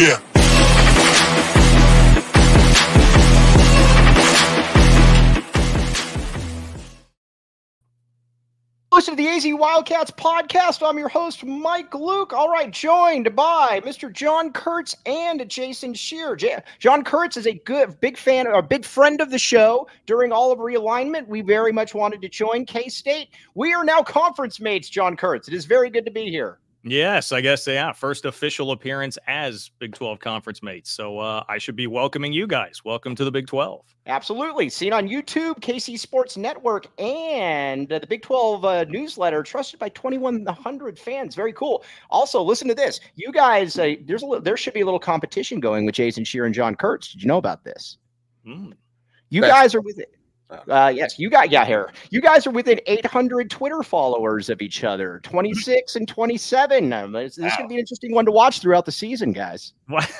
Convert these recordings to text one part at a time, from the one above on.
Yeah. Listen to the AZ Wildcats podcast. I'm your host, Mike Luke. All right, joined by Mr. John Kurtz and Jason Scheer. John Kurtz is a big fan, or big friend of the show. During all of realignment, we very much wanted to join K-State. We are now conference mates, John Kurtz. It is very good to be here. Yes, I guess, yeah. First official appearance as Big 12 conference mates. So I should be welcoming you guys. Welcome to the Big 12. Absolutely. Seen on YouTube, KC Sports Network, and the Big 12 newsletter, trusted by 2,100 fans. Very cool. Also, listen to this. You guys, there should be a little competition going with Jason Scheer and John Kurtz. Did you know about this? You guys are with it. Yes, you guys are within 800 Twitter followers of each other, 26 and 27. This is going to be an interesting one to watch throughout the season, guys.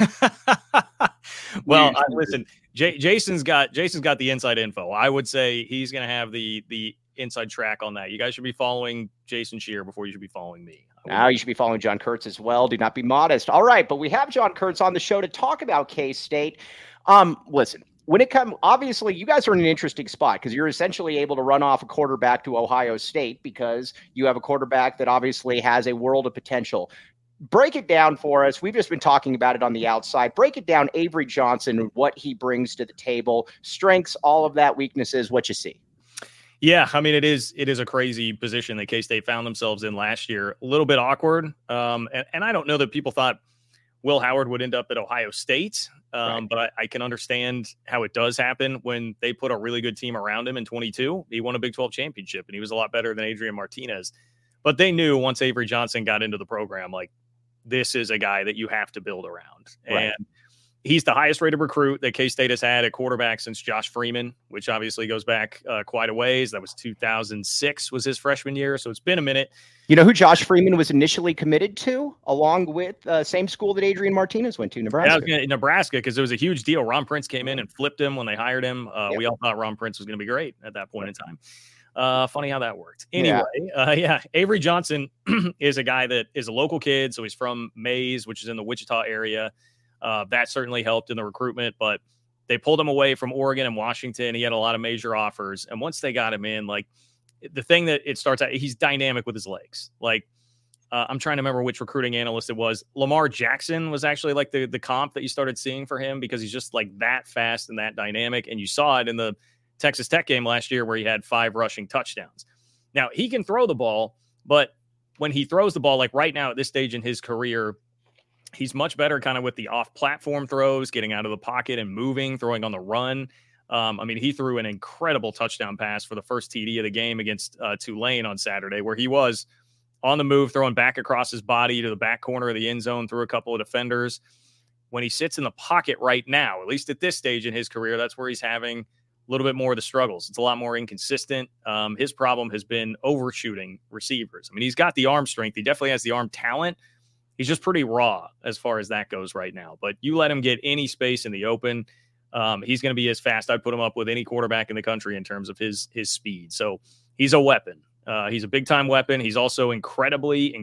Well, listen, Jason's got the inside info. I would say he's going to have the inside track on that. You guys should be following Jason Scheer before you should be following me. Now you should be following John Kurtz as well. Do not be modest. All right, but we have John Kurtz on the show to talk about K-State. Listen. When it comes, obviously, you guys are in an interesting spot because you're essentially able to run off a quarterback to Ohio State because you have a quarterback that obviously has a world of potential. Break it down for us. We've just been talking about it on the outside. Break it down, Avery Johnson, what he brings to the table, strengths, all of that, weaknesses, what you see. Yeah, I mean, it is a crazy position that K-State found themselves in last year. A little bit awkward. And I don't know that people thought Will Howard would end up at Ohio State. Right. But I can understand how it does happen when they put a really good team around him in 22. He won a Big 12 championship, and he was a lot better than Adrian Martinez. But they knew once Avery Johnson got into the program, like, this is a guy that you have to build around. Right. And he's the highest rated recruit that K-State has had at quarterback since Josh Freeman, which obviously goes back quite a ways. That was 2006 was his freshman year. So it's been a minute. You know who Josh Freeman was initially committed to, along with same school that Adrian Martinez went to, Nebraska? Yeah, Nebraska, because it was a huge deal. Ron Prince came in and flipped him when they hired him. Yep. We all thought Ron Prince was going to be great at that point in time. Funny how that worked. Anyway, Avery Johnson is a guy that is a local kid. So he's from Mays, which is in the Wichita area. That certainly helped in the recruitment, but they pulled him away from Oregon and Washington. He had a lot of major offers. And once they got him in, like, the thing that it starts out, he's dynamic with his legs. Like, I'm trying to remember which recruiting analyst it was. Lamar Jackson was actually like the comp that you started seeing for him because he's just like that fast and that dynamic. And you saw it in the Texas Tech game last year where he had 5 rushing touchdowns. Now, he can throw the ball, but when he throws the ball, like right now at this stage in his career, he's much better kind of with the off-platform throws, getting out of the pocket and moving, throwing on the run. I mean, he threw an incredible touchdown pass for the first TD of the game against Tulane on Saturday, where he was on the move, throwing back across his body to the back corner of the end zone through a couple of defenders. When he sits in the pocket right now, at least at this stage in his career, that's where he's having a little bit more of the struggles. It's a lot more inconsistent. His problem has been overshooting receivers. I mean, he's got the arm strength. He definitely has the arm talent. He's just pretty raw as far as that goes right now. But you let him get any space in the open, he's going to be as fast. I'd put him up with any quarterback in the country in terms of his speed. So he's a weapon. He's a big-time weapon. He's also incredibly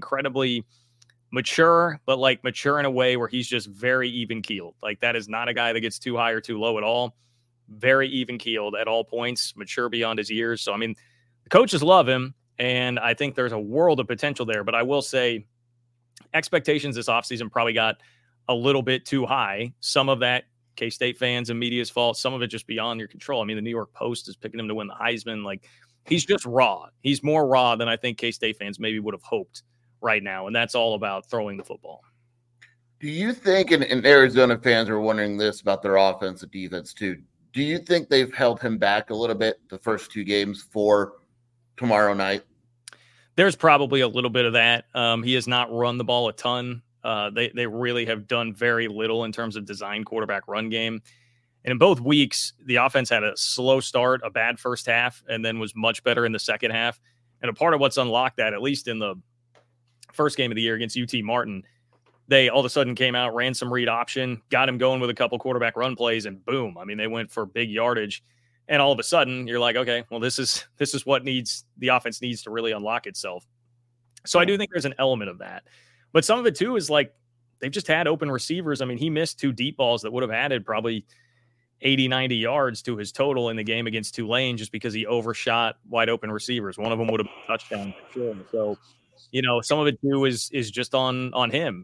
mature, but like mature in a way where he's just very even-keeled. Like, that is not a guy that gets too high or too low at all. Very even-keeled at all points, mature beyond his years. So, I mean, the coaches love him, and I think there's a world of potential there. But I will say expectations this offseason probably got a little bit too high. Some of that K-State fans and media's fault. Some of it just beyond your control. I mean, the New York Post is picking him to win the Heisman. Like, he's just raw. He's more raw than I think K-State fans maybe would have hoped right now. And that's all about throwing the football. Do you think, and Arizona fans are wondering this about their offense and defense too, do you think they've held him back a little bit the first 2 games for tomorrow night? There's probably a little bit of that. He has not run the ball a ton. They really have done very little in terms of design quarterback run game. And in both weeks, the offense had a slow start, a bad first half, and then was much better in the second half. And a part of what's unlocked that, at least in the first game of the year against UT Martin, they all of a sudden came out, ran some read option, got him going with a couple quarterback run plays, and boom. I mean, they went for big yardage. And all of a sudden, you're like, okay, well, this is what the offense needs to really unlock itself. So I do think there's an element of that. But some of it, too, is like they've just had open receivers. I mean, he missed 2 deep balls that would have added probably 80, 90 yards to his total in the game against Tulane just because he overshot wide open receivers. One of them would have been a touchdown for sure. So, some of it too is just on him.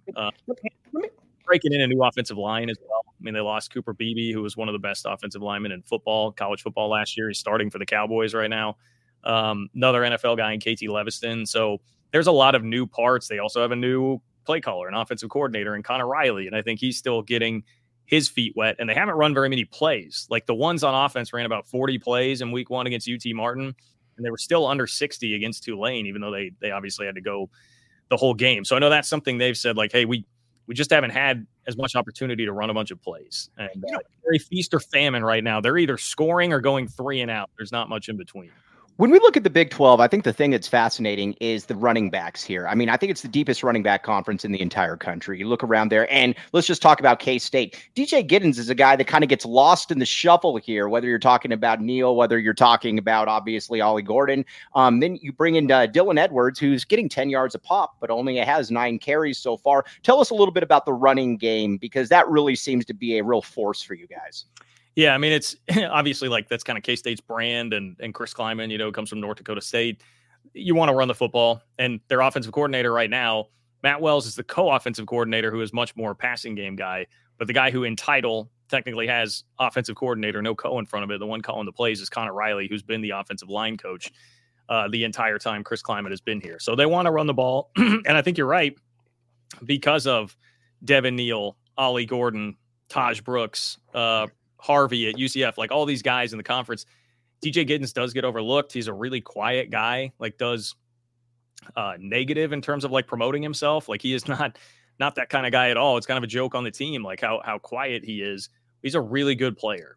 Breaking in a new offensive line as well. I mean, they lost Cooper Beebe, who was one of the best offensive linemen in college football last year. He's starting for the Cowboys right now. Another NFL guy in KT Leviston. So there's a lot of new parts. They also have a new play caller, an offensive coordinator, and Connor Riley. And I think he's still getting his feet wet. And they haven't run very many plays. Like the ones on offense ran about 40 plays in week 1 against UT Martin. And they were still under 60 against Tulane, even though they obviously had to go the whole game. So I know that's something they've said, like, hey, we just haven't had as much opportunity to run a bunch of plays. And very feast or famine right now. They're either scoring or going 3 and out. There's not much in between. When we look at the Big 12, I think the thing that's fascinating is the running backs here. I mean, I think it's the deepest running back conference in the entire country. You look around there, and let's just talk about K-State. DJ Giddens is a guy that kind of gets lost in the shuffle here, whether you're talking about Neal, whether you're talking about, obviously, Ollie Gordon. Then you bring in Dylan Edwards, who's getting 10 yards a pop, but only has 9 carries so far. Tell us a little bit about the running game, because that really seems to be a real force for you guys. Yeah, I mean, it's obviously like that's kind of K-State's brand, and Chris Kleiman, comes from North Dakota State. You want to run the football, and their offensive coordinator right now, Matt Wells, is the co-offensive coordinator who is much more passing game guy, but the guy who in title technically has offensive coordinator, no co in front of it. The one calling the plays is Connor Riley, who's been the offensive line coach the entire time Chris Kleiman has been here. So they want to run the ball, and I think you're right, because of Devin Neal, Ollie Gordon, Taj Brooks, Harvey at UCF, like all these guys in the conference. DJ Giddens does get overlooked. He's a really quiet guy, like does negative in terms of like promoting himself. Like he is not that kind of guy at all. It's kind of a joke on the team, like how quiet he is. He's a really good player.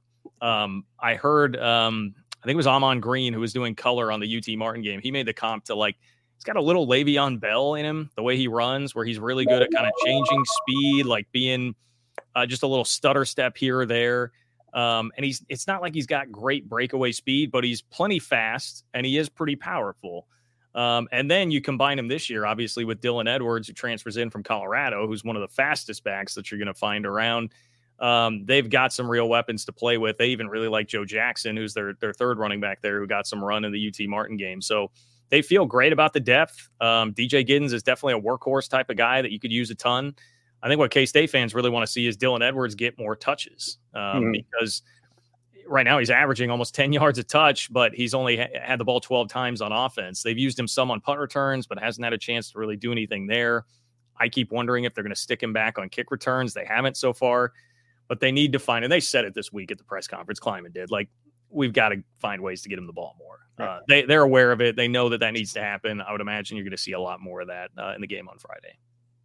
I heard, I think it was Amon Green who was doing color on the UT Martin game. He made the comp to like, he's got a little Le'Veon Bell in him, the way he runs, where he's really good at kind of changing speed, like being just a little stutter step here or there. And it's not like he's got great breakaway speed, but he's plenty fast and he is pretty powerful. And then you combine him this year, obviously, with Dylan Edwards, who transfers in from Colorado, who's one of the fastest backs that you're going to find around. They've got some real weapons to play with. They even really like Joe Jackson, who's their third running back there, who got some run in the UT Martin game. So they feel great about the depth. DJ Giddens is definitely a workhorse type of guy that you could use a ton. I think what K-State fans really want to see is Dylan Edwards get more touches because right now he's averaging almost 10 yards a touch, but he's only had the ball 12 times on offense. They've used him some on punt returns, but hasn't had a chance to really do anything there. I keep wondering if they're going to stick him back on kick returns. They haven't so far, but they need to find, and they said it this week at the press conference, Kleiman did, like, we've got to find ways to get him the ball more. They're aware of it. They know that needs to happen. I would imagine you're going to see a lot more of that in the game on Friday.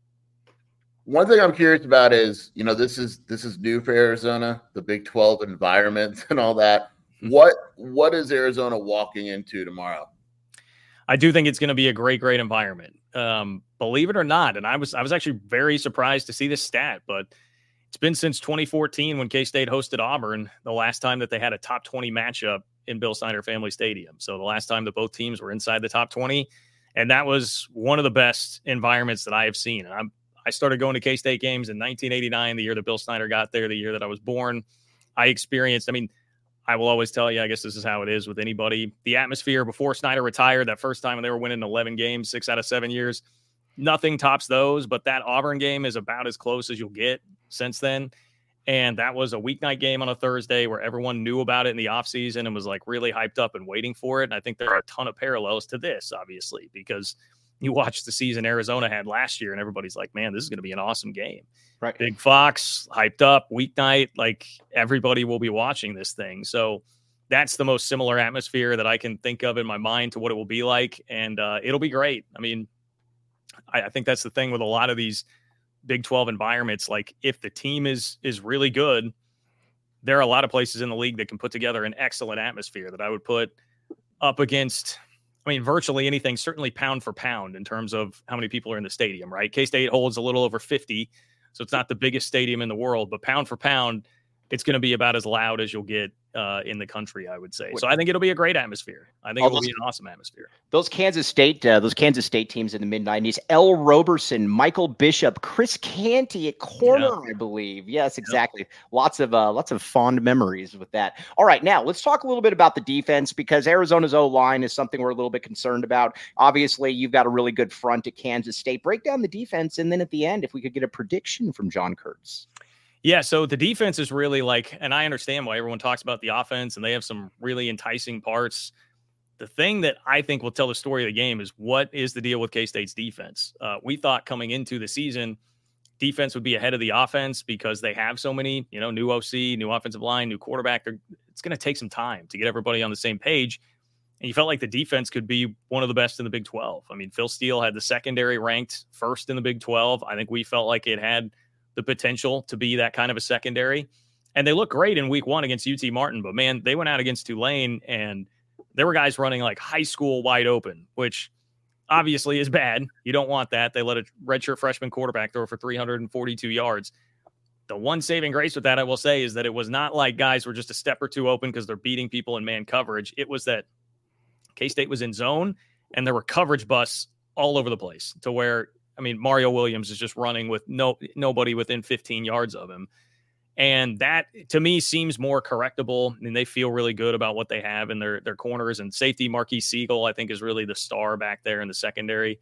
One thing I'm curious about is, this is new for Arizona, the Big 12 environment and all that. What is Arizona walking into tomorrow? I do think it's going to be a great environment. Believe it or not, and I was actually very surprised to see this stat, but it's been since 2014 when K-State hosted Auburn, the last time that they had a top 20 matchup in Bill Snyder Family Stadium. So the last time that both teams were inside the top 20, and that was one of the best environments that I have seen. And I started going to K-State games in 1989, the year that Bill Snyder got there, the year that I was born. I experienced, I will always tell you, I guess this is how it is with anybody. The atmosphere before Snyder retired, that first time when they were winning 11 games, 6 out of 7 years, nothing tops those. But that Auburn game is about as close as you'll get since then. And that was a weeknight game on a Thursday where everyone knew about it in the offseason and was like really hyped up and waiting for it. And I think there are a ton of parallels to this, obviously, because you watch the season Arizona had last year and everybody's like, man, this is going to be an awesome game. Right. Big Fox, hyped up, weeknight, like everybody will be watching this thing. So that's the most similar atmosphere that I can think of in my mind to what it will be like. And it'll be great. I think that's the thing with a lot of these Big 12 environments. Like if the team is really good, there are a lot of places in the league that can put together an excellent atmosphere that I would put up against virtually anything, certainly pound for pound in terms of how many people are in the stadium, right? K-State holds a little over 50, so it's not the biggest stadium in the world, but pound for pound, it's going to be about as loud as you'll get in the country, I would say. So I think it'll be a great atmosphere. I think it will be an awesome atmosphere. Those Kansas State teams in the mid-90s, L. Roberson, Michael Bishop, Chris Canty at corner, I believe. Yes, exactly. Lots of fond memories with that. All right, now let's talk a little bit about the defense, because Arizona's O-line is something we're a little bit concerned about. Obviously, you've got a really good front at Kansas State. Break down the defense, and then at the end, if we could get a prediction from John Kurtz. Yeah, so the defense is really and I understand why everyone talks about the offense, and they have some really enticing parts. The thing that I think will tell the story of the game is, what is the deal with K-State's defense? We thought coming into the season, defense would be ahead of the offense because they have so many, new OC, new offensive line, new quarterback. It's going to take some time to get everybody on the same page. And you felt like the defense could be one of the best in the Big 12. I mean, Phil Steele had the secondary ranked first in the Big 12. I think we felt like it had the potential to be that kind of a secondary. And they look great in week 1 against UT Martin, but man, they went out against Tulane and there were guys running like high school wide open, which obviously is bad. You don't want that. They let a redshirt freshman quarterback throw for 342 yards. The one saving grace with that, I will say, is that it was not like guys were just a step or two open because they're beating people in man coverage. It was that K-State was in zone and there were coverage busts all over the place, to where, Mario Williams is just running with nobody within 15 yards of him. And that, to me, seems more correctable. They feel really good about what they have in their corners. And safety Marquis Siegel, I think, is really the star back there in the secondary.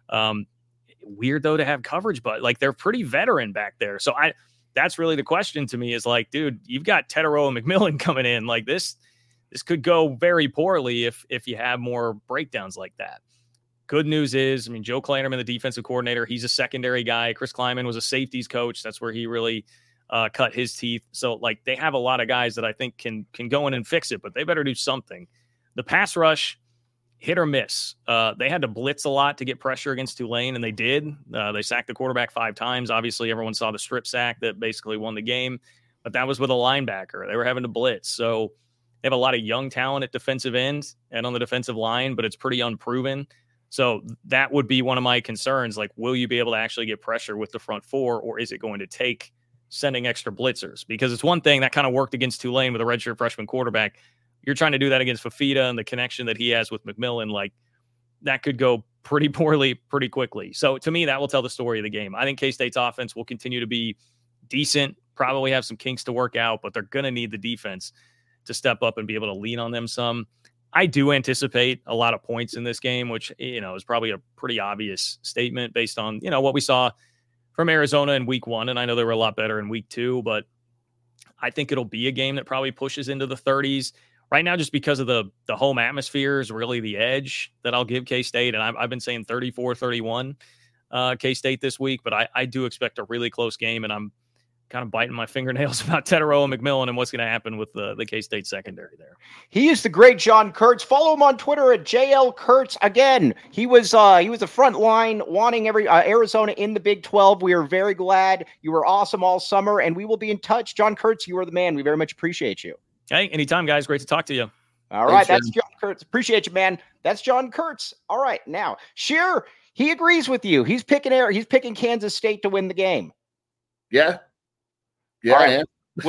Weird, though, to have coverage, but they're pretty veteran back there. So that's really the question to me, is dude, you've got Tetero and McMillan coming in. This could go very poorly if you have more breakdowns like that. Good news is, Joe Klanderman, the defensive coordinator, he's a secondary guy. Chris Kleiman was a safeties coach. That's where he really cut his teeth. So, they have a lot of guys that I think can go in and fix it, but they better do something. The pass rush, hit or miss. They had to blitz a lot to get pressure against Tulane, and they did. They sacked the quarterback 5 times. Obviously, everyone saw the strip sack that basically won the game, but that was with a linebacker. They were having to blitz. So they have a lot of young talent at defensive end and on the defensive line, but it's pretty unproven. So that would be one of my concerns. Will you be able to actually get pressure with the front 4, or is it going to take sending extra blitzers? Because it's one thing that kind of worked against Tulane with a redshirt freshman quarterback. You're trying to do that against Fafita and the connection that he has with McMillan. That could go pretty poorly pretty quickly. So to me, that will tell the story of the game. I think K-State's offense will continue to be decent, probably have some kinks to work out, but they're going to need the defense to step up and be able to lean on them some. I do anticipate a lot of points in this game, which, is probably a pretty obvious statement based on, what we saw from Arizona in week 1. And I know they were a lot better in week 2, but I think it'll be a game that probably pushes into the 30s right now, just because of the home atmosphere is really the edge that I'll give K-State. And I've been saying 34-31 K-State this week, but I do expect a really close game, and I'm kind of biting my fingernails about Tetero and McMillan and what's going to happen with the K-State secondary there. He is the great John Kurtz. Follow him on Twitter at JL Kurtz. Again, he was the front line wanting Arizona in the Big 12. We are very glad. You were awesome all summer, and we will be in touch. John Kurtz, you are the man. We very much appreciate you. Hey, anytime, guys. Great to talk to you. All right, that's John Kurtz. Appreciate you, man. That's John Kurtz. All right, now, Sheer, he agrees with you. He's picking Kansas State to win the game. Yeah. Yeah, right.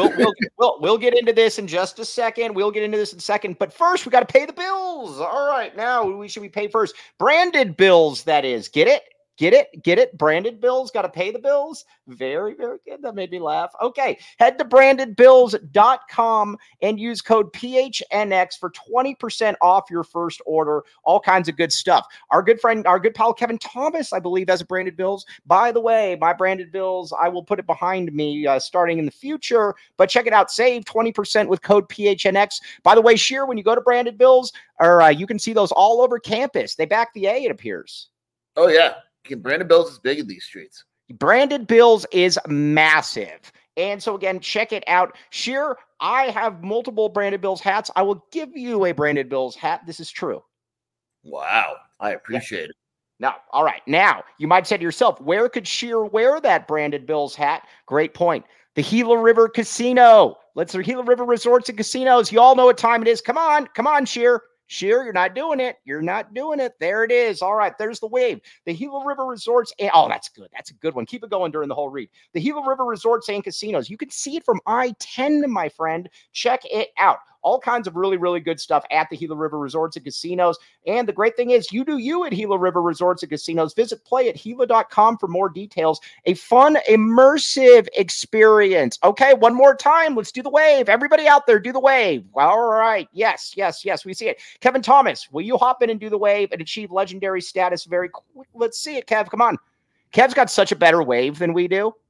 We'll get into this in just a second. But first, we got to pay the bills. All right, now we pay first? Branded bills, that is. Get it? Branded bills, got to pay the bills. Very, very good. That made me laugh. Okay, head to brandedbills.com and use code PHNX for 20% off your first order. All kinds of good stuff. Our good pal Kevin Thomas, I believe, has a branded bills. By the way, my branded bills, I will put it behind me starting in the future, but check it out. Save 20% with code PHNX. By the way, Sheer, when you go to branded bills, you can see those all over campus. They back the A, it appears. Oh, yeah. Branded Bills is big in these streets. Branded Bills is massive. And so, again, check it out. Sheer, I have multiple Branded Bills hats. I will give you a Branded Bills hat. This is true. Wow. I appreciate it. Now, all right. Now, you might say to yourself, where could Sheer wear that Branded Bills hat? Great point. The Gila River Casino. The Gila River Resorts and Casinos. You all know what time it is. Come on, Sheer. Sure, you're not doing it. You're not doing it. There it is. All right, there's the wave. The Gila River Resorts. Oh, that's good. That's a good one. Keep it going during the whole read. The Gila River Resorts and Casinos. You can see it from I-10, my friend. Check it out. All kinds of really, really good stuff at the Gila River Resorts and Casinos. And the great thing is, you do you at Gila River Resorts and Casinos. Visit playatgila.com for more details. A fun, immersive experience. Okay, one more time. Let's do the wave. Everybody out there, do the wave. All right. Yes. We see it. Kevin Thomas, will you hop in and do the wave and achieve legendary status very quick? Let's see it, Kev. Come on. Kev's got such a better wave than we do.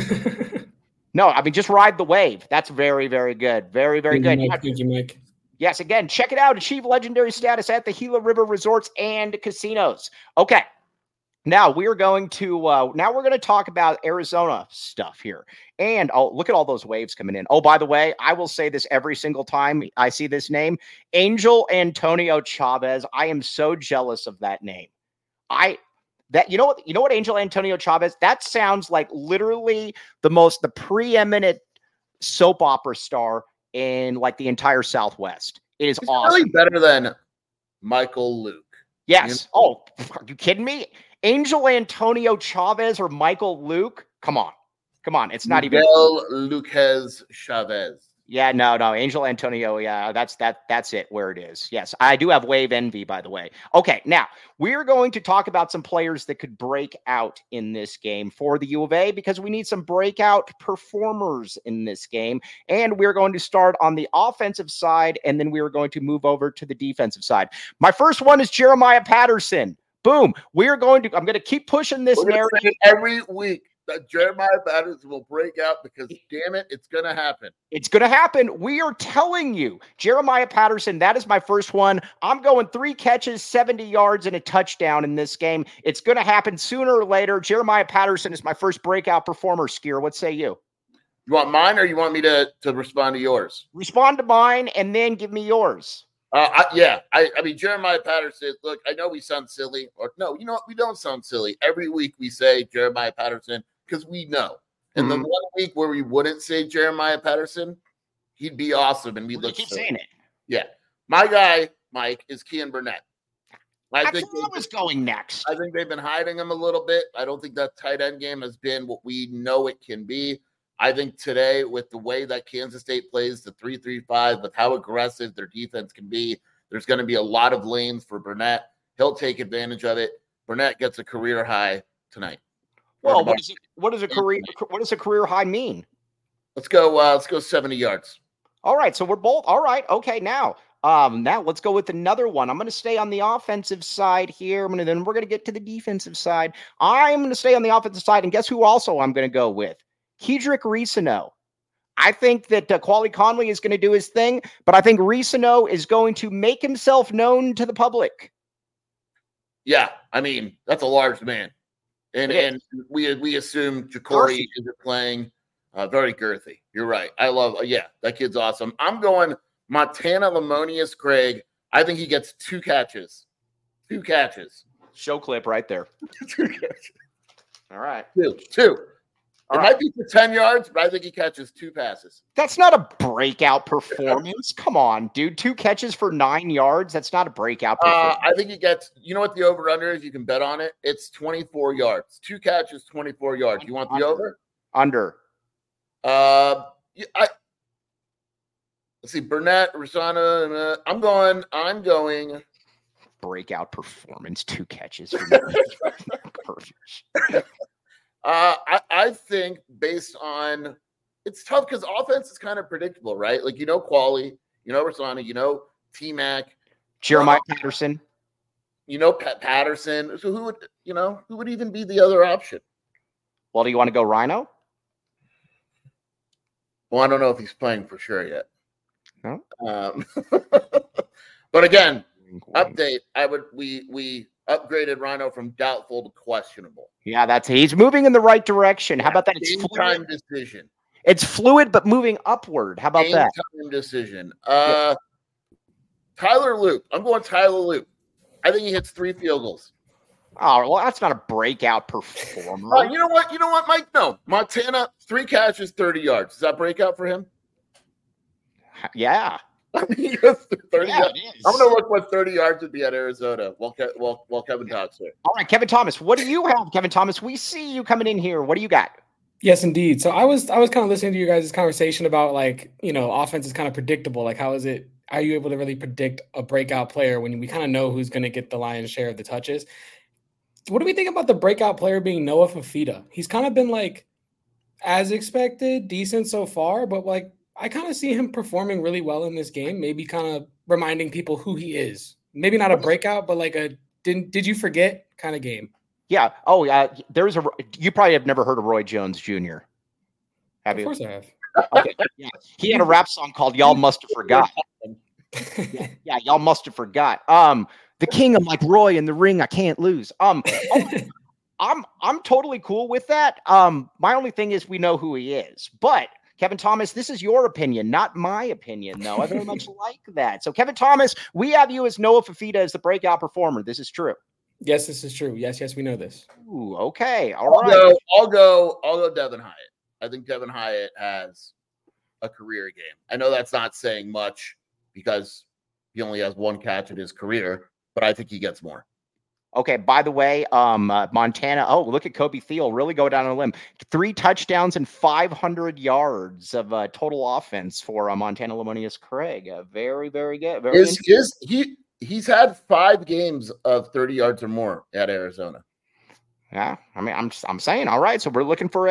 No, I mean, just ride the wave. That's very, very good. Very, very good. Thank you, Mike. Yes, again, check it out. Achieve legendary status at the Gila River Resorts and Casinos. Okay. Now we're going to talk about Arizona stuff here. And look at all those waves coming in. Oh, by the way, I will say this every single time I see this name, Angel Antonio Chavez. I am so jealous of that name. You know what, Angel Antonio Chavez, that sounds like literally the preeminent soap opera star in like the entire Southwest. It is awesome. Really better than Michael Luke. Yes. Oh, are you kidding me? Angel Antonio Chavez or Michael Luke? Come on. It's not even Lucas Chavez. Yeah, no. Angel Antonio, yeah, that's it where it is. Yes, I do have wave envy, by the way. Okay, now we're going to talk about some players that could break out in this game for the U of A because we need some breakout performers in this game. And we're going to start on the offensive side, and then we are going to move over to the defensive side. My first one is Jeremiah Patterson. Boom. I'm going to keep pushing this narrative every week. That Jeremiah Patterson will break out because, damn it, it's going to happen. It's going to happen. We are telling you. Jeremiah Patterson, that is my first one. I'm going 3 catches, 70 yards, and a touchdown in this game. It's going to happen sooner or later. Jeremiah Patterson is my first breakout performer, Skier. What say you? You want mine or you want me to respond to yours? Respond to mine and then give me yours. I mean, Jeremiah Patterson, look, I know we sound silly. Or no, you know what? We don't sound silly. Every week we say Jeremiah Patterson because we know. And the one week where we wouldn't say Jeremiah Patterson, he'd be awesome. And we'd keep saying it. Yeah. My guy, Mike, is Kean Burnett. I was going next. I think they've been hiding him a little bit. I don't think that tight end game has been what we know it can be. I think today, with the way that Kansas State plays the 3-3-5, with how aggressive their defense can be, there's going to be a lot of lanes for Burnett. He'll take advantage of it. Burnett gets a career high tonight. Well, what does a career high mean? Let's go 70 yards. All right, so we're both all right. Okay, now let's go with another one. I'm going to stay on the offensive side here. Then we're going to get to the defensive side. I'm going to stay on the offensive side, and guess who also I'm going to go with? Kedrick Reesano. I think that Quali Conley is going to do his thing, but I think Reesano is going to make himself known to the public. Yeah, I mean, that's a large man. And we assume Ja'Cory is playing very girthy. You're right. I love that kid's awesome. I'm going Montana Lamonius Craig. I think he gets 2 catches. 2 catches. Show clip right there. 2 catches. All right. 2. It might be for 10 yards, but I think he catches 2 passes. That's not a breakout performance. Come on, dude. 2 catches for 9 yards. That's not a breakout performance. I think he gets, you know what the over-under is? You can bet on it. It's 24 yards. 2 catches, 24 yards. You want the over? Under. Let's see. Burnett, Reesano. I'm going. Breakout performance. 2 catches. I think based on it's tough because offense is kind of predictable, right? Like Quali, Reesano, T-Mac, Jeremiah Patterson, Patterson. So who would even be the other option? Well, do you want to go Rhino? Well, I don't know if he's playing for sure yet. No. But again, update. We upgraded Rhino from doubtful to questionable. Yeah, he's moving in the right direction. How about that? It's time decision. It's fluid, but moving upward. How about that? Time decision. Tyler Loop. I'm going Tyler Loop. I think he hits 3 field goals. Oh, well, that's not a breakout performer. You know what, Mike? No. Montana, 3 catches, 30 yards. Is that breakout for him? Yeah. I mean, he goes 30 Yeah, yards. it is. I'm going to look what 30 yards would be at Arizona while Kevin talks here. All right, Kevin Thomas, what do you have, Kevin Thomas? We see you coming in here. What do you got? Yes, indeed. So I was kind of listening to you guys' conversation about offense is kind of predictable. Like, are you able to really predict a breakout player when we kind of know who's going to get the lion's share of the touches? What do we think about the breakout player being Noah Fifita? He's kind of been like, as expected, decent so far, but like I kind of see him performing really well in this game, maybe kind of reminding people who he is. Maybe not a breakout, but like a did you forget kind of game. Yeah. Oh, yeah. You probably have never heard of Roy Jones Jr. Have you? Of course I have. Okay. Yeah. He had a rap song called "Y'all Must Have Forgot." Yeah, y'all must have forgot. The king, I'm like Roy in the ring. I can't lose. I'm totally cool with that. My only thing is we know who he is, but Kevin Thomas, this is your opinion, not my opinion, though. I very much like that. So, Kevin Thomas, we have you as Noah Fifita as the breakout performer. This is true. Yes, this is true. Yes, we know this. Ooh, okay. All right. I'll go Devin Hyatt. I think Devin Hyatt has a career game. I know that's not saying much because he only has one catch in his career, but I think he gets more. Okay, by the way, Montana, look at Kobe Thiel really go down on a limb. 3 touchdowns and 500 yards of total offense for Montana Lemonius Craig. Very, very good. He's had 5 games of 30 yards or more at Arizona. Yeah, I mean, I'm saying, all right. So we're looking for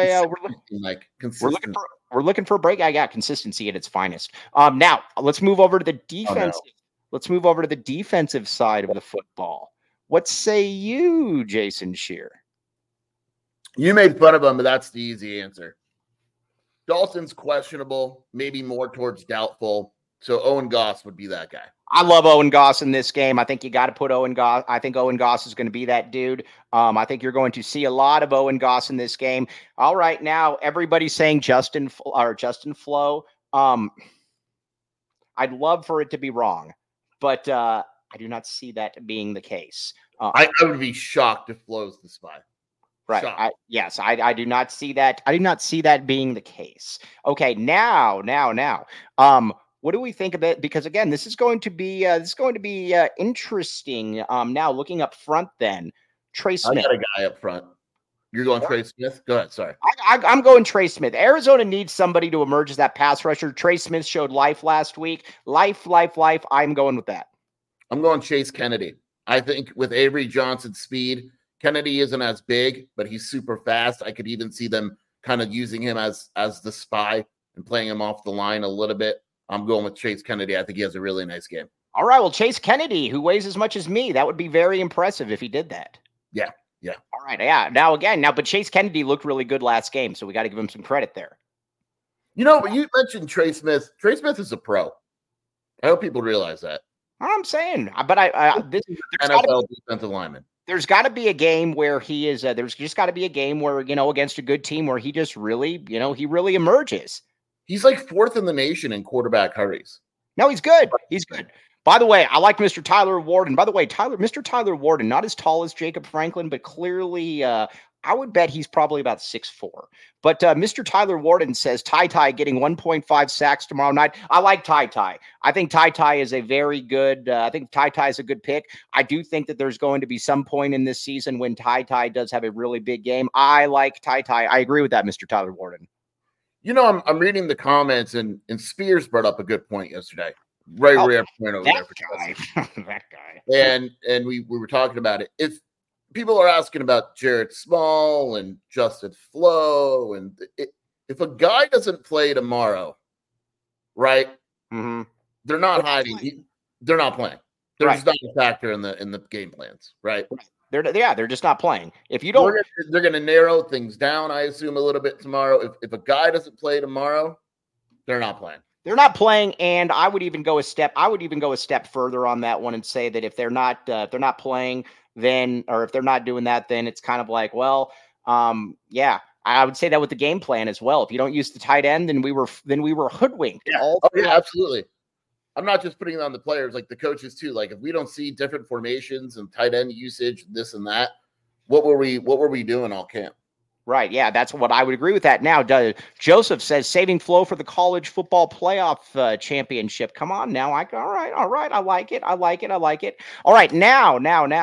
we're looking for a break. I got consistency at its finest. Now let's move over to the defense. Oh, no. Let's move over to the defensive side of the football. What say you, Jason Shear? You made fun of him, but that's the easy answer. Dalton's questionable, maybe more towards doubtful. So Owen Goss would be that guy. I love Owen Goss in this game. I think you got to put Owen Goss. I think Owen Goss is going to be that dude. I think you're going to see a lot of Owen Goss in this game. All right, now everybody's saying Justin Flo. I'd love for it to be wrong, but I do not see that being the case. I would be shocked if Flo's the spy. Right. I do not see that. I do not see that being the case. Okay. Now. What do we think of it? Because again, this is going to be interesting. Now looking up front, then Trey Smith. I got a guy up front. You're going Trey Smith? Go ahead. Sorry. I'm going Trey Smith. Arizona needs somebody to emerge as that pass rusher. Trey Smith showed life last week. Life. I'm going with that. I'm going Chase Kennedy. I think with Avery Johnson's speed, Kennedy isn't as big, but he's super fast. I could even see them kind of using him as the spy and playing him off the line a little bit. I'm going with Chase Kennedy. I think he has a really nice game. All right. Well, Chase Kennedy, who weighs as much as me, that would be very impressive if he did that. Yeah. All right. Yeah. But Chase Kennedy looked really good last game, so we got to give him some credit there. You know, you mentioned Trey Smith. Trey Smith is a pro. I hope people realize that. I'm saying, but this NFL defensive lineman. There's got to be a game where he is. There's just got to be a game where against a good team where he just really, he really emerges. He's like 4th in the nation in quarterback hurries. No, he's good. He's good. By the way, I like Mr. Tyler Warden. By the way, Mr. Tyler Warden, not as tall as Jacob Franklin, but clearly, I would bet he's probably about 6'4". But Mr. Tyler Warden says Ty getting 1.5 sacks tomorrow night. I like Ty. I think Ty is a very good. I think Ty is a good pick. I do think that there's going to be some point in this season when Ty does have a really big game. I like Ty. I agree with that, Mr. Tyler Warden. I'm reading the comments, and Spears brought up a good point yesterday. Rare point over there for guy. That guy. And we were talking about it. If people are asking about Jared Small and Justin Flo, and if a guy doesn't play tomorrow, right? Mm-hmm. They're not hiding. They're not playing. They're just not a factor in the game plans, right? They're just not playing. If you don't, they're going to narrow things down, I assume, a little bit tomorrow. If a guy doesn't play tomorrow, they're not playing. They're not playing, and I would even go a step further on that one and say that if they're not playing, then, or if they're not doing that, then it's kind of like, well, yeah, I would say that with the game plan as well. If you don't use the tight end, then we were hoodwinked. Yeah. Yeah, absolutely. I'm not just putting it on the players, like the coaches too. Like if we don't see different formations and tight end usage, this and that, what were we doing all camp? Right. Yeah, that's what I would agree with that. Now, Joseph says saving flow for the college football playoff championship. Come on now. All right. I like it. I All right. Now.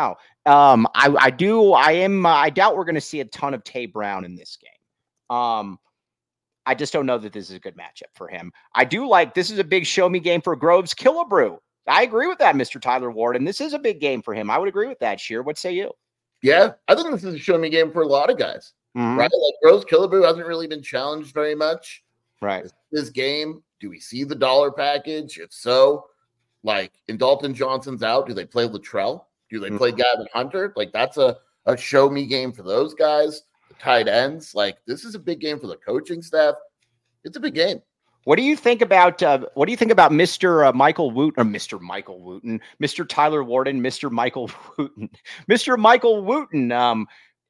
I doubt we're going to see a ton of Tay Brown in this game. I just don't know that this is a good matchup for him. I do like, this is a big show me game for Groves Killebrew. I agree with that, Mr. Tyler Ward. And this is a big game for him. I would agree with that, Sheer. What say you? Yeah, I think this is a show me game for a lot of guys. Mm-hmm. Right? Like Groves Killebrew hasn't really been challenged very much. Right. This game, do we see the dollar package? If so, like in Dalton Johnson's out, do they play Latrell? Do they play Gavin Hunter? Like that's a show me game for those guys. The tight ends, like this is a big game for the coaching staff. It's a big game. What do you think about Mr. Michael Wooten, or Mr. Michael Wooten, Mr. Tyler Warden, Mr. Michael Wooten, Mr. Michael Wooten?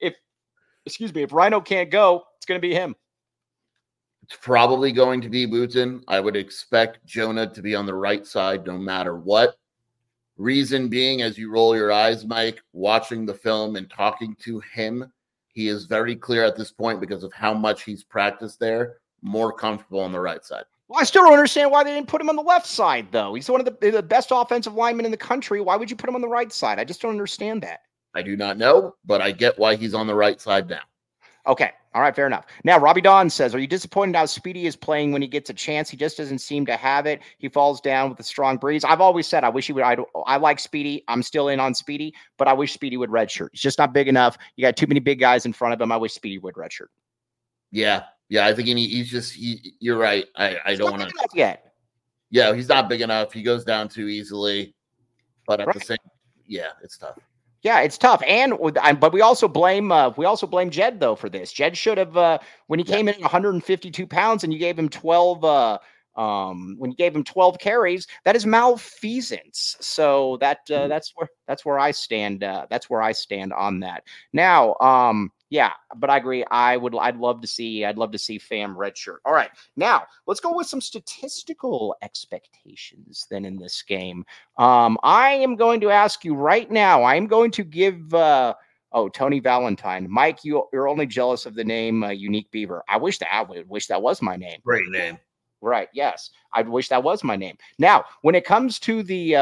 If Rhino can't go, it's going to be him. It's probably going to be Wooten. I would expect Jonah to be on the right side no matter what. Reason being, as you roll your eyes, Mike, watching the film and talking to him, he is very clear at this point because of how much he's practiced there, more comfortable on the right side. Well, I still don't understand why they didn't put him on the left side, though. He's one of the best offensive linemen in the country. Why would you put him on the right side? I just don't understand that. I do not know, but I get why he's on the right side now. Okay. All right. Fair enough. Now, Robbie Don says, are you disappointed how Speedy is playing when he gets a chance? He just doesn't seem to have it. He falls down with a strong breeze. I've always said, I wish he would. I like Speedy. I'm still in on Speedy, but I wish Speedy would redshirt. He's just not big enough. You got too many big guys in front of him. I wish Speedy would redshirt. Yeah. I think you're right. I don't want to yet. Yeah. He's not big enough. He goes down too easily, but at the same, yeah, it's tough. Yeah, it's tough, but we also blame Jed though for this. Jed should have when he came in at 152 pounds and you gave him 12 when you gave him 12 carries, that is malfeasance. So that's where I stand. That's where I stand on that. Now, yeah, but I agree. I'd love to see Fam redshirt. All right, now let's go with some statistical expectations then in this game. I am going to ask you right now. I am going to give Tony Valentine, Mike. You're only jealous of the name Unique Beaver. I wish that was my name. Great name. Right. Yes, I wish that was my name. Now, when it comes to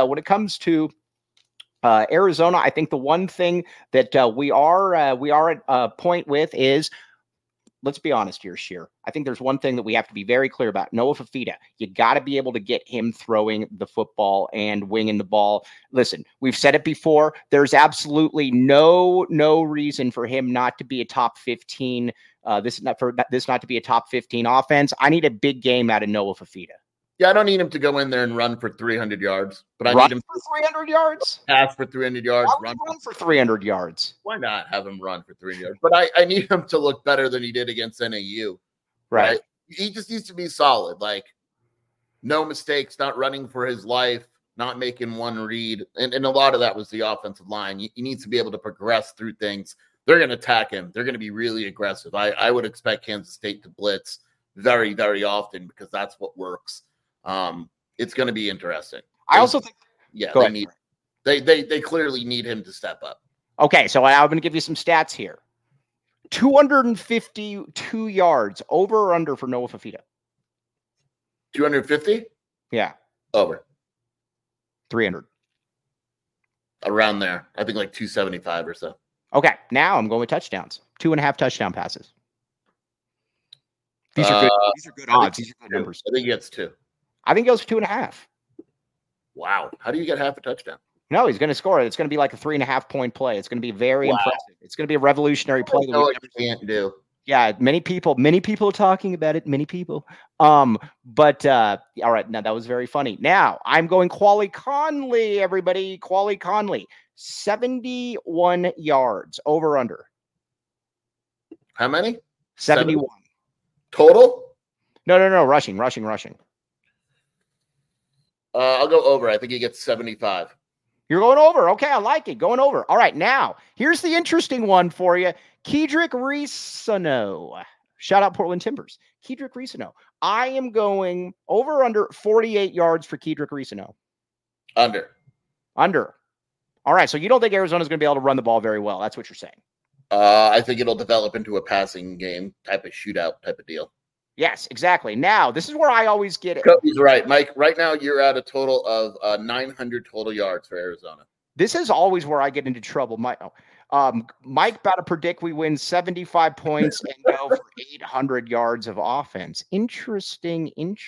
Arizona, I think the one thing that we are at a point with is, let's be honest here, Sheer. I think there's one thing that we have to be very clear about. Noah Fifita, you got to be able to get him throwing the football and winging the ball. Listen, we've said it before. There's absolutely no reason for him not to be a top 15. This not to be a top 15 offense. I need a big game out of Noah Fifita. Yeah, I don't need him to go in there and run for 300 yards, but I need him for 300 yards. Pass for 300 yards. Run for 300 yards. Why not have him run for 300 yards? But I need him to look better than he did against NAU. Right. He just needs to be solid. Like, no mistakes, not running for his life, not making one read. And a lot of that was the offensive line. He needs to be able to progress through things. They're going to attack him. They're going to be really aggressive. I would expect Kansas State to blitz very, very often because that's what works. It's going to be interesting. I also think, they clearly need him to step up. Okay, so I'm going to give you some stats here. 252 yards over or under for Noah Fifita. 250? Yeah. Over. 300. Around there. I think like 275 or so. Okay, now I'm going with touchdowns. 2.5 touchdown passes. These are good. These are good odds. These are good numbers. I think he gets 2. I think it goes for 2.5. Wow. How do you get half a touchdown? No, he's going to score it. It's going to be like a 3.5 point play. It's going to be very impressive. It's going to be a revolutionary play. That we can't do. Yeah, many people are talking about it. Many people. All right. Now that was very funny. Now I'm going Quali Conley, everybody. Quali Conley, 71 yards over under. How many? 71 total. No. Rushing. I'll go over. I think he gets 75. You're going over. Okay, I like it. Going over. All right, now, here's the interesting one for you. Kedrick Reesano. Shout out Portland Timbers. Kedrick Reesano. I am going over under 48 yards for Kedrick Reesano. Under. All right, so you don't think Arizona's going to be able to run the ball very well. That's what you're saying. I think it'll develop into a passing game type of shootout type of deal. Yes, exactly. Now, this is where I always get it. Cody's right. Mike, right now you're at a total of 900 total yards for Arizona. This is always where I get into trouble. Mike about to predict we win 75 points and go for 800 yards of offense. Interesting.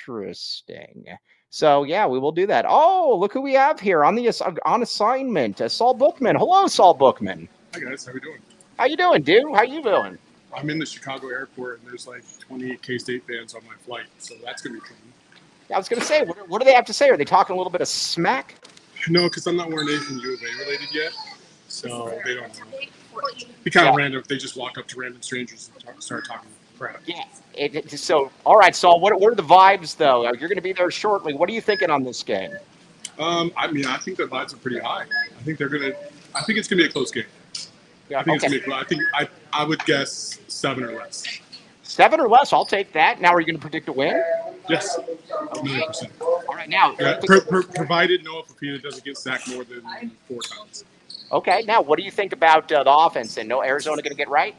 So, yeah, we will do that. Oh, look who we have here on assignment. Saul Bookman. Hello, Saul Bookman. Hi, guys. How we doing? How you doing, dude? How you doing? I'm in the Chicago airport, and there's like 28 K-State fans on my flight, so that's going to be fun. I was going to say, what do they have to say? Are they talking a little bit of smack? No, because I'm not wearing anything U of A related yet, so they don't know. It'd be kind of random if they just walk up to random strangers and start talking crap. Yeah. So, all right, Saul, what are the vibes, though? You're going to be there shortly. What are you thinking on this game? I think their vibes are pretty high. I think it's going to be a close game. Yeah, I would guess 7 or less. 7 or less, I'll take that. Now, are you going to predict a win? Yes, 100%. All right, now. Yeah, provided Noah Fafita doesn't get sacked more than 4 times. Okay, now what do you think about the offense? Then, no Arizona going to get right?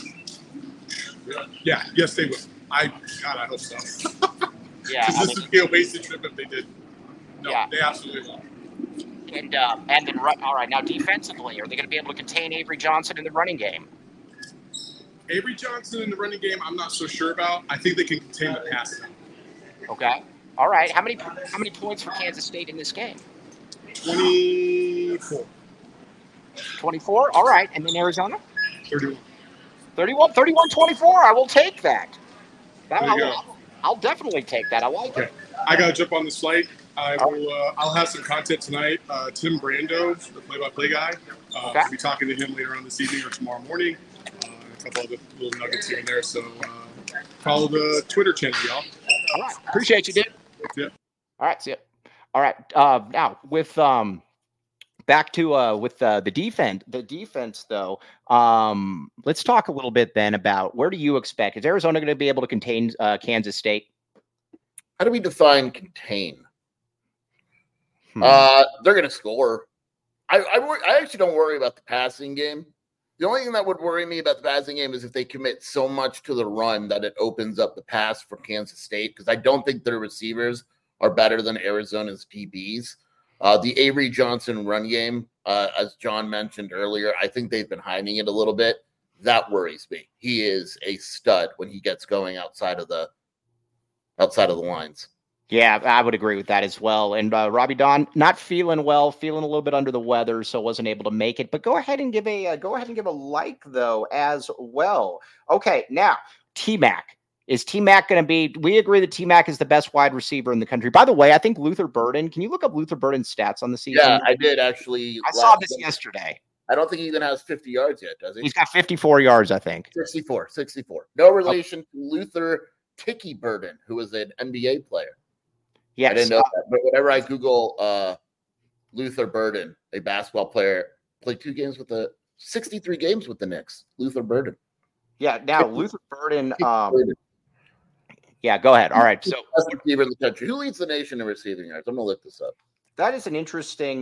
Yeah, yes, they will. I hope so. Yeah, this would be a wasted trip if they did. No, yeah. They absolutely will. And then, all right, now defensively, are they going to be able to contain Avery Johnson in the running game? Avery Johnson in the running game, I'm not so sure about. I think they can contain the pass. Okay. All right. How many points for Kansas State in this game? 24. 24? All right. And then Arizona? 31. 31-24. I will take that. Go. I'll definitely take that. I like it. I got to jump on this flight. I'll have some content tonight. Tim Brando, the play-by-play guy, I'll be talking to him later on this evening or tomorrow morning. A couple other little nuggets here and there. So follow the Twitter channel, y'all. All right. Appreciate you, dude. Yeah. All right. See ya. All right. Now with back to with the defense. The defense, though. Let's talk a little bit then about where do you expect? Is Arizona going to be able to contain Kansas State? How do we define contain? They're going to score. I actually don't worry about the passing game. The only thing that would worry me about the passing game is if they commit so much to the run that it opens up the pass for Kansas State, because I don't think their receivers are better than Arizona's DBs. The Avery Johnson run game, as John mentioned earlier, I think they've been hiding it a little bit. That worries me. He is a stud when he gets going outside of the lines. Yeah, I would agree with that as well. And Robbie Don, not feeling well, feeling a little bit under the weather, so wasn't able to make it. But go ahead and give a like though as well. Okay, now T-Mac. Is T-Mac going to be? We agree that T-Mac is the best wide receiver in the country. By the way, I think Luther Burden. Can you look up Luther Burden's stats on the season? Yeah, I did actually. I saw this yesterday. I don't think he even has 50 yards yet, does he? He's got 54 yards, I think. 64. No relation to Luther Tiki Burden, who was an NBA player. Yes. I didn't know that. But whenever I Google Luther Burden, a basketball player, played 63 games with the Knicks. Luther Burden. Yeah, now Luther Burden. Yeah, go ahead. All right. So best receiver in the country. Who leads the nation in receiving yards? I'm gonna look this up. That is an interesting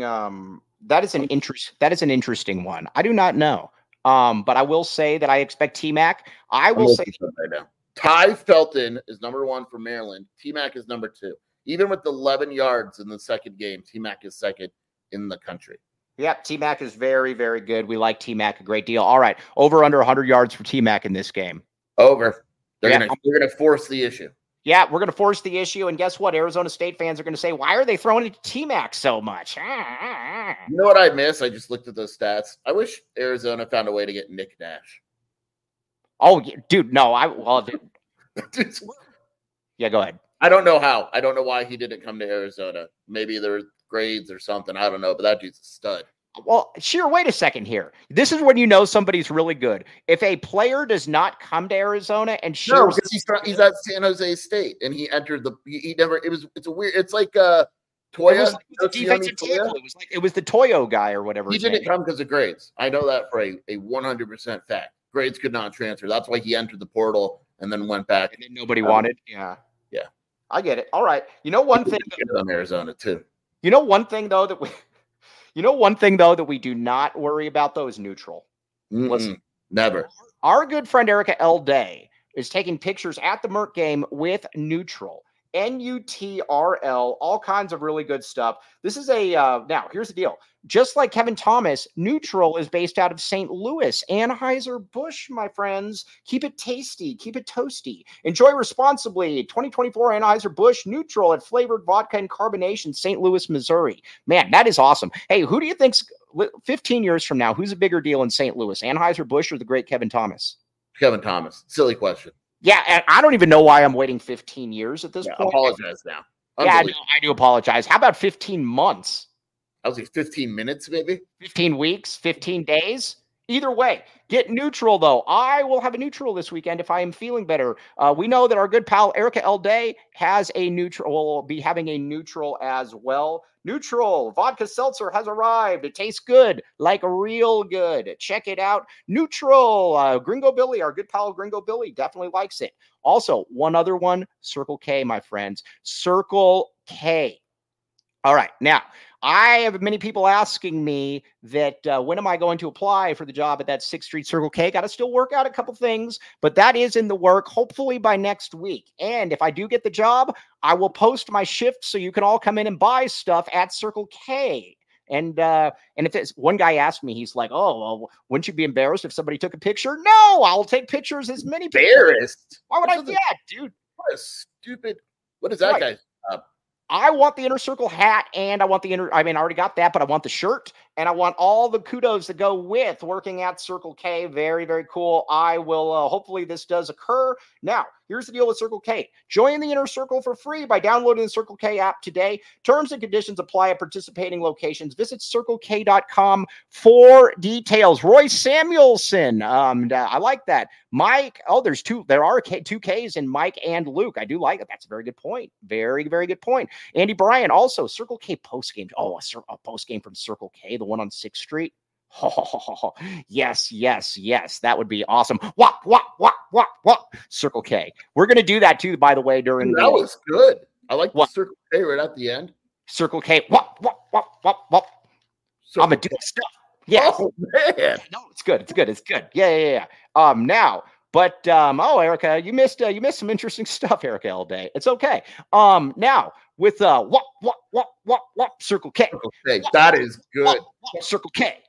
one. I do not know. But I will say that I expect T-Mac. I will say right now. Ty Felton is number 1 for Maryland. T-Mac is number 2. Even with 11 yards in the second game, T-Mac is second in the country. Yep, T-Mac is very, very good. We like T-Mac a great deal. All right, over under 100 yards for T-Mac in this game. Over. They're gonna force the issue. Yeah, we're gonna force the issue, and guess what? Arizona State fans are gonna say, "Why are they throwing it to T-Mac so much?" You know what I miss? I just looked at those stats. I wish Arizona found a way to get Nick Nash. Oh, dude, no, yeah, go ahead. I don't know how. I don't know why he didn't come to Arizona. Maybe there were grades or something. I don't know, but that dude's a stud. Well, sure. Wait a second here. This is when you know somebody's really good. If a player does not come to Arizona and shows, no, because he's at San Jose State and he entered he never. It's a weird. It's like Toya. It was like the defensive tackle. It was the Toyo guy or whatever. He didn't come because of grades. I know that for a 100% fact. Grades could not transfer. That's why he entered the portal and then went back. And then nobody wanted. Yeah. I get it. All right. You know one thing on Arizona too. You know one thing though that we do not worry about though is neutral. Mm-mm. Never. Our good friend Erica L. Day is taking pictures at the Merc game with Neutral. N-U-T-R-L, all kinds of really good stuff. This is now here's the deal. Just like Kevin Thomas, Neutral is based out of St. Louis. Anheuser-Busch, my friends. Keep it tasty. Keep it toasty. Enjoy responsibly. 2024 Anheuser-Busch Neutral at flavored vodka and carbonation, St. Louis, Missouri. Man, that is awesome. Hey, who do you think's 15 years from now, who's a bigger deal in St. Louis, Anheuser-Busch or the great Kevin Thomas? Kevin Thomas. Silly question. Yeah, and I don't even know why I'm waiting 15 years at this point. Apologize now. Yeah, I do apologize. How about 15 months? I was like 15 minutes, maybe. 15 weeks, 15 days. Either way, get Neutral, though. I will have a Neutral this weekend if I am feeling better. We know that our good pal Erica L. Day has a Neutral, will be having a Neutral as well. Neutral vodka seltzer has arrived. It tastes good, like real good. Check it out. Neutral, Gringo Billy, our good pal Gringo Billy, definitely likes it. Also, one other one, Circle K, my friends. Circle K. All right, now, I have many people asking me that when am I going to apply for the job at that 6th Street Circle K? Got to still work out a couple things, but that is in the work, hopefully by next week. And if I do get the job, I will post my shift so you can all come in and buy stuff at Circle K. And if it's one guy asked me, he's like, "Oh, well, wouldn't you be embarrassed if somebody took a picture?" No, I'll take pictures as many. Embarrassed? Why would I? Yeah, dude. What a stupid. What is that guy? I want the Inner Circle hat and I want I already got that, but I want the shirt and I want all the kudos that go with working at Circle K. Very, very cool. I will, hopefully this does occur. Now, here's the deal with Circle K. Join the Inner Circle for free by downloading the Circle K app today. Terms and conditions apply at participating locations. Visit CircleK.com for details. Roy Samuelson. I like that. Mike. Oh, there are two Ks in Mike and Luke. I do like it. That's a very good point. Very, very good point. Andy Bryan, also Circle K postgame. Oh, a postgame from Circle K, the one on 6th Street. Oh, yes. That would be awesome. What? Circle K. We're going to do that too, by the way, during that was good. I like the Circle K right at the end. Circle K. What? I'm going to do stuff. Yeah. Oh, man. No, it's good. Yeah. Now, but Erica, you missed some interesting stuff, Erica L. Day. It's okay. Now with Circle K. Circle K. That is good. Circle K.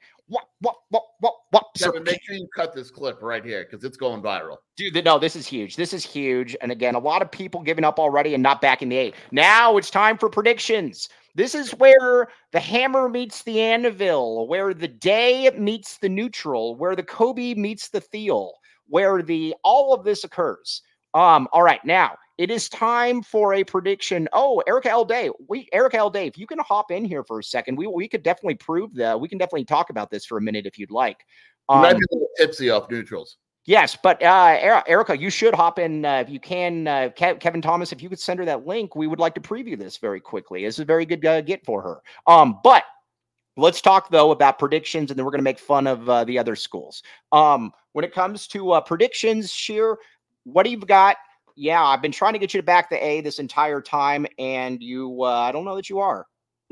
Kevin, make sure you cut this clip right here because it's going viral. Dude, no, this is huge. And again, a lot of people giving up already and not backing the 8. Now it's time for predictions. This is where the hammer meets the anvil, where the day meets the neutral, where the Kobe meets the Thiel, where all of this occurs. All right, now it is time for a prediction. Oh, Erica L. Day. If you can hop in here for a second, we could definitely prove that. We can definitely talk about this for a minute if you'd like. You might be a little tipsy off neutrals. Yes, but Erica, you should hop in if you can. Kevin Thomas, if you could send her that link, we would like to preview this very quickly. This is a very good get for her. But let's talk, though, about predictions, and then we're going to make fun of the other schools. When it comes to predictions, Sheer, what do you got? Yeah, I've been trying to get you to back the A this entire time, and you, I don't know that you are.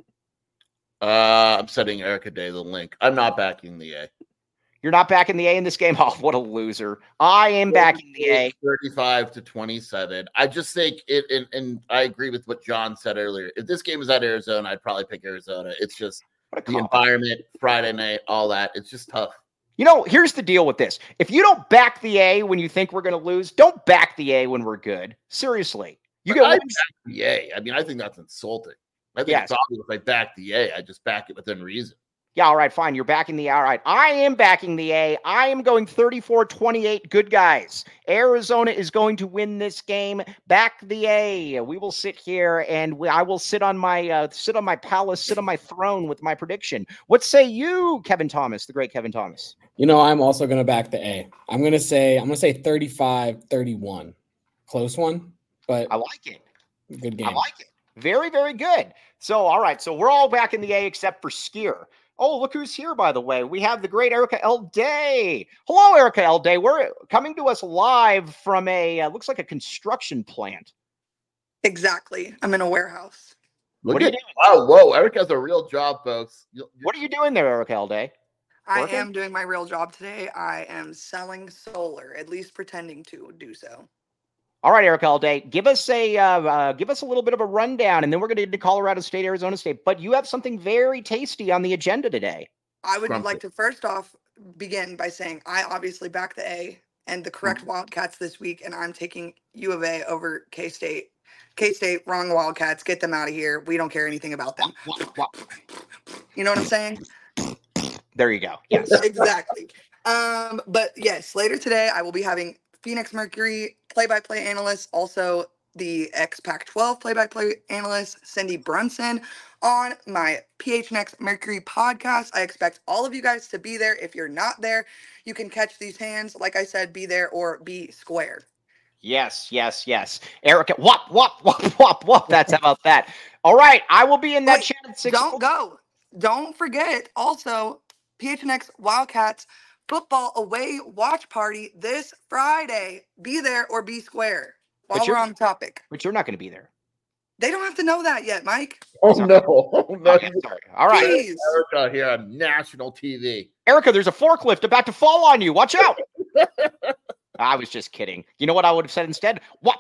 I'm sending Erica Day the link. I'm not backing the A. You're not backing the A in this game? Oh, what a loser. I am backing the A. 35-27. I just think it, and I agree with what John said earlier. If this game is at Arizona, I'd probably pick Arizona. It's just the environment, Friday night, all that. It's just tough. You know, here's the deal with this. If you don't back the A when you think we're going to lose, don't back the A when we're good. Seriously. I back the A. I mean, I think that's insulting. I think it's obvious if I back the A, I just back it within reason. Yeah, all right, fine. You're backing the A. All right. I am backing the A. I am going 34-28. Good guys. Arizona is going to win this game. Back the A. We will sit here and I will sit on my palace, sit on my throne with my prediction. What say you, Kevin Thomas, the great Kevin Thomas? You know, I'm also going to back the A. I'm going to say 35-31. Close one, but I like it. Good game. I like it. Very, very good. So, all right. So we're all back in the A except for Skier. Oh, look who's here, by the way. We have the great Erica L. Day. Hello, Erica L. Day. We're coming to us live from looks like a construction plant. Exactly. I'm in a warehouse. What are you doing? Oh, whoa. Erica has a real job, folks. What are you doing there, Erica L. Day? I am doing my real job today. I am selling solar, at least pretending to do so. All right, Eric Alday, give us a little bit of a rundown, and then we're going to get to Colorado State, Arizona State. But you have something very tasty on the agenda today. I would like to first off begin by saying I obviously back the A and the correct Wildcats this week, and I'm taking U of A over K-State. K-State, wrong Wildcats. Get them out of here. We don't care anything about them. You know what I'm saying? There you go. Yes, exactly. But yes, later today I will be having Phoenix Mercury play-by-play analyst, also the ex-Pac-12 play-by-play analyst, Cindy Brunson, on my PHNX Mercury podcast. I expect all of you guys to be there. If you're not there, you can catch these hands. Like I said, be there or be square. Yes. Erica, whop. That's about that. All right, I will be in that chat at 6. Don't go. Don't forget, also, PHNX Wildcats football away watch party this Friday. Be there or be square while we're on the topic. But you're not going to be there. They don't have to know that yet, Mike. Oh, no. Okay, sorry. All right. Jeez. Erica here on national TV. Erica, there's a forklift about to fall on you. Watch out. I was just kidding. You know what I would have said instead? Whop.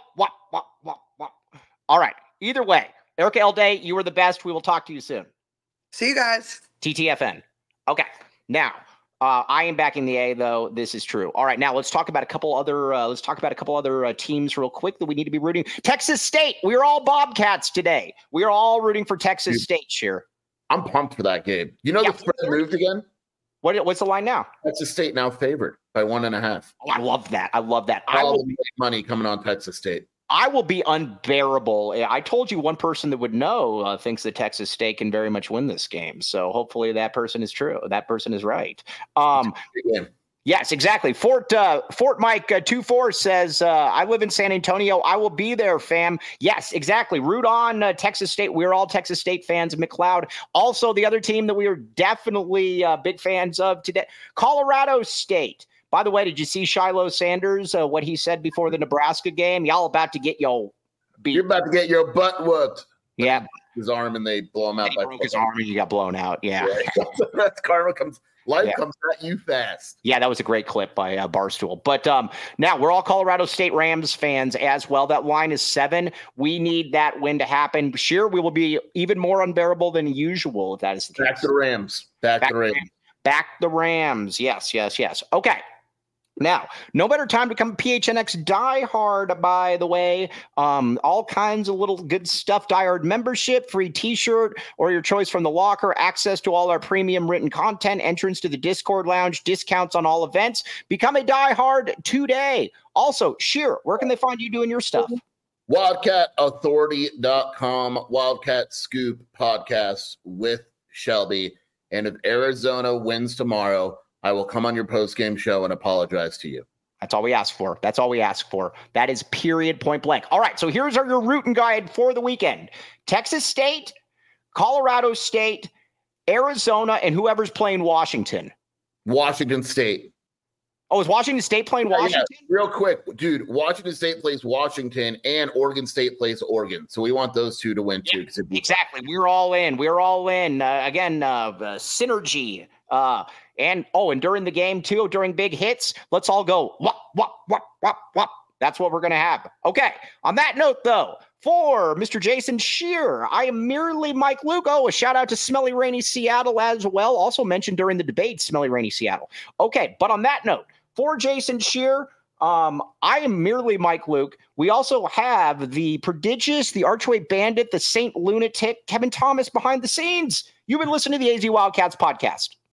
All right. Either way, Erica Alday, you were the best. We will talk to you soon. See you guys. TTFN. Okay. Now, I am backing the A, though. This is true. All right. Now let's talk about a couple other teams real quick that we need to be rooting. Texas State. We are all Bobcats today. We are all rooting for Texas State here. I'm pumped for that game. You know, the spread moved again. What's the line now? Texas State now favored by 1.5. Oh, I love that. All the money coming on Texas State. I will be unbearable. I told you one person that would know thinks that Texas State can very much win this game. So hopefully that person is true. That person is right. Yes, exactly. Fort Mike 24 says, I live in San Antonio. I will be there, fam. Yes, exactly. Root on Texas State. We're all Texas State fans. McLeod. Also, the other team that we are definitely big fans of today, Colorado State. By the way, did you see Shiloh Sanders, what he said before the Nebraska game? Y'all about to get your beat. You're about to get your butt whooped. Yeah. His arm and they blow him out. He broke his arm and he got blown out. Yeah. That's karma comes. Life comes at you fast. Yeah, that was a great clip by Barstool. But now we're all Colorado State Rams fans as well. That line is 7. We need that win to happen. Sure, we will be even more unbearable than usual if that is the case. Back the Rams. Back the Rams. Back the Rams. Yes. Okay. Now, no better time to become a PHNX diehard, by the way. All kinds of little good stuff. Diehard membership, free t-shirt, or your choice from the locker, access to all our premium written content, entrance to the Discord lounge, discounts on all events. Become a diehard today. Also, Sheer, where can they find you doing your stuff? WildcatAuthority.com, Wildcat Scoop podcast with Shelby. And if Arizona wins tomorrow, I will come on your post-game show and apologize to you. That's all we ask for. That is period, point blank. All right, so here's your route and guide for the weekend. Texas State, Colorado State, Arizona, and whoever's playing Washington. Washington State. Oh, is Washington State playing Washington? Yeah. Real quick, dude, Washington State plays Washington and Oregon State plays Oregon. So we want those two to win too. Exactly. We're all in. Again, synergy. And during the game too, during big hits, let's all go wop, wop, wop, wop, wop. That's what we're going to have. Okay. On that note, though, for Mr. Jason Shear, I am merely Mike Lugo. A shout out to Smelly Rainy Seattle as well. Also mentioned during the debate, Smelly Rainy Seattle. Okay. But on that note, for Jason Shear, I am merely Mike Luke. We also have the prodigious, the Archway Bandit, the Saint Lunatic, Kevin Thomas behind the scenes. You've been listening to the AZ Wildcats podcast.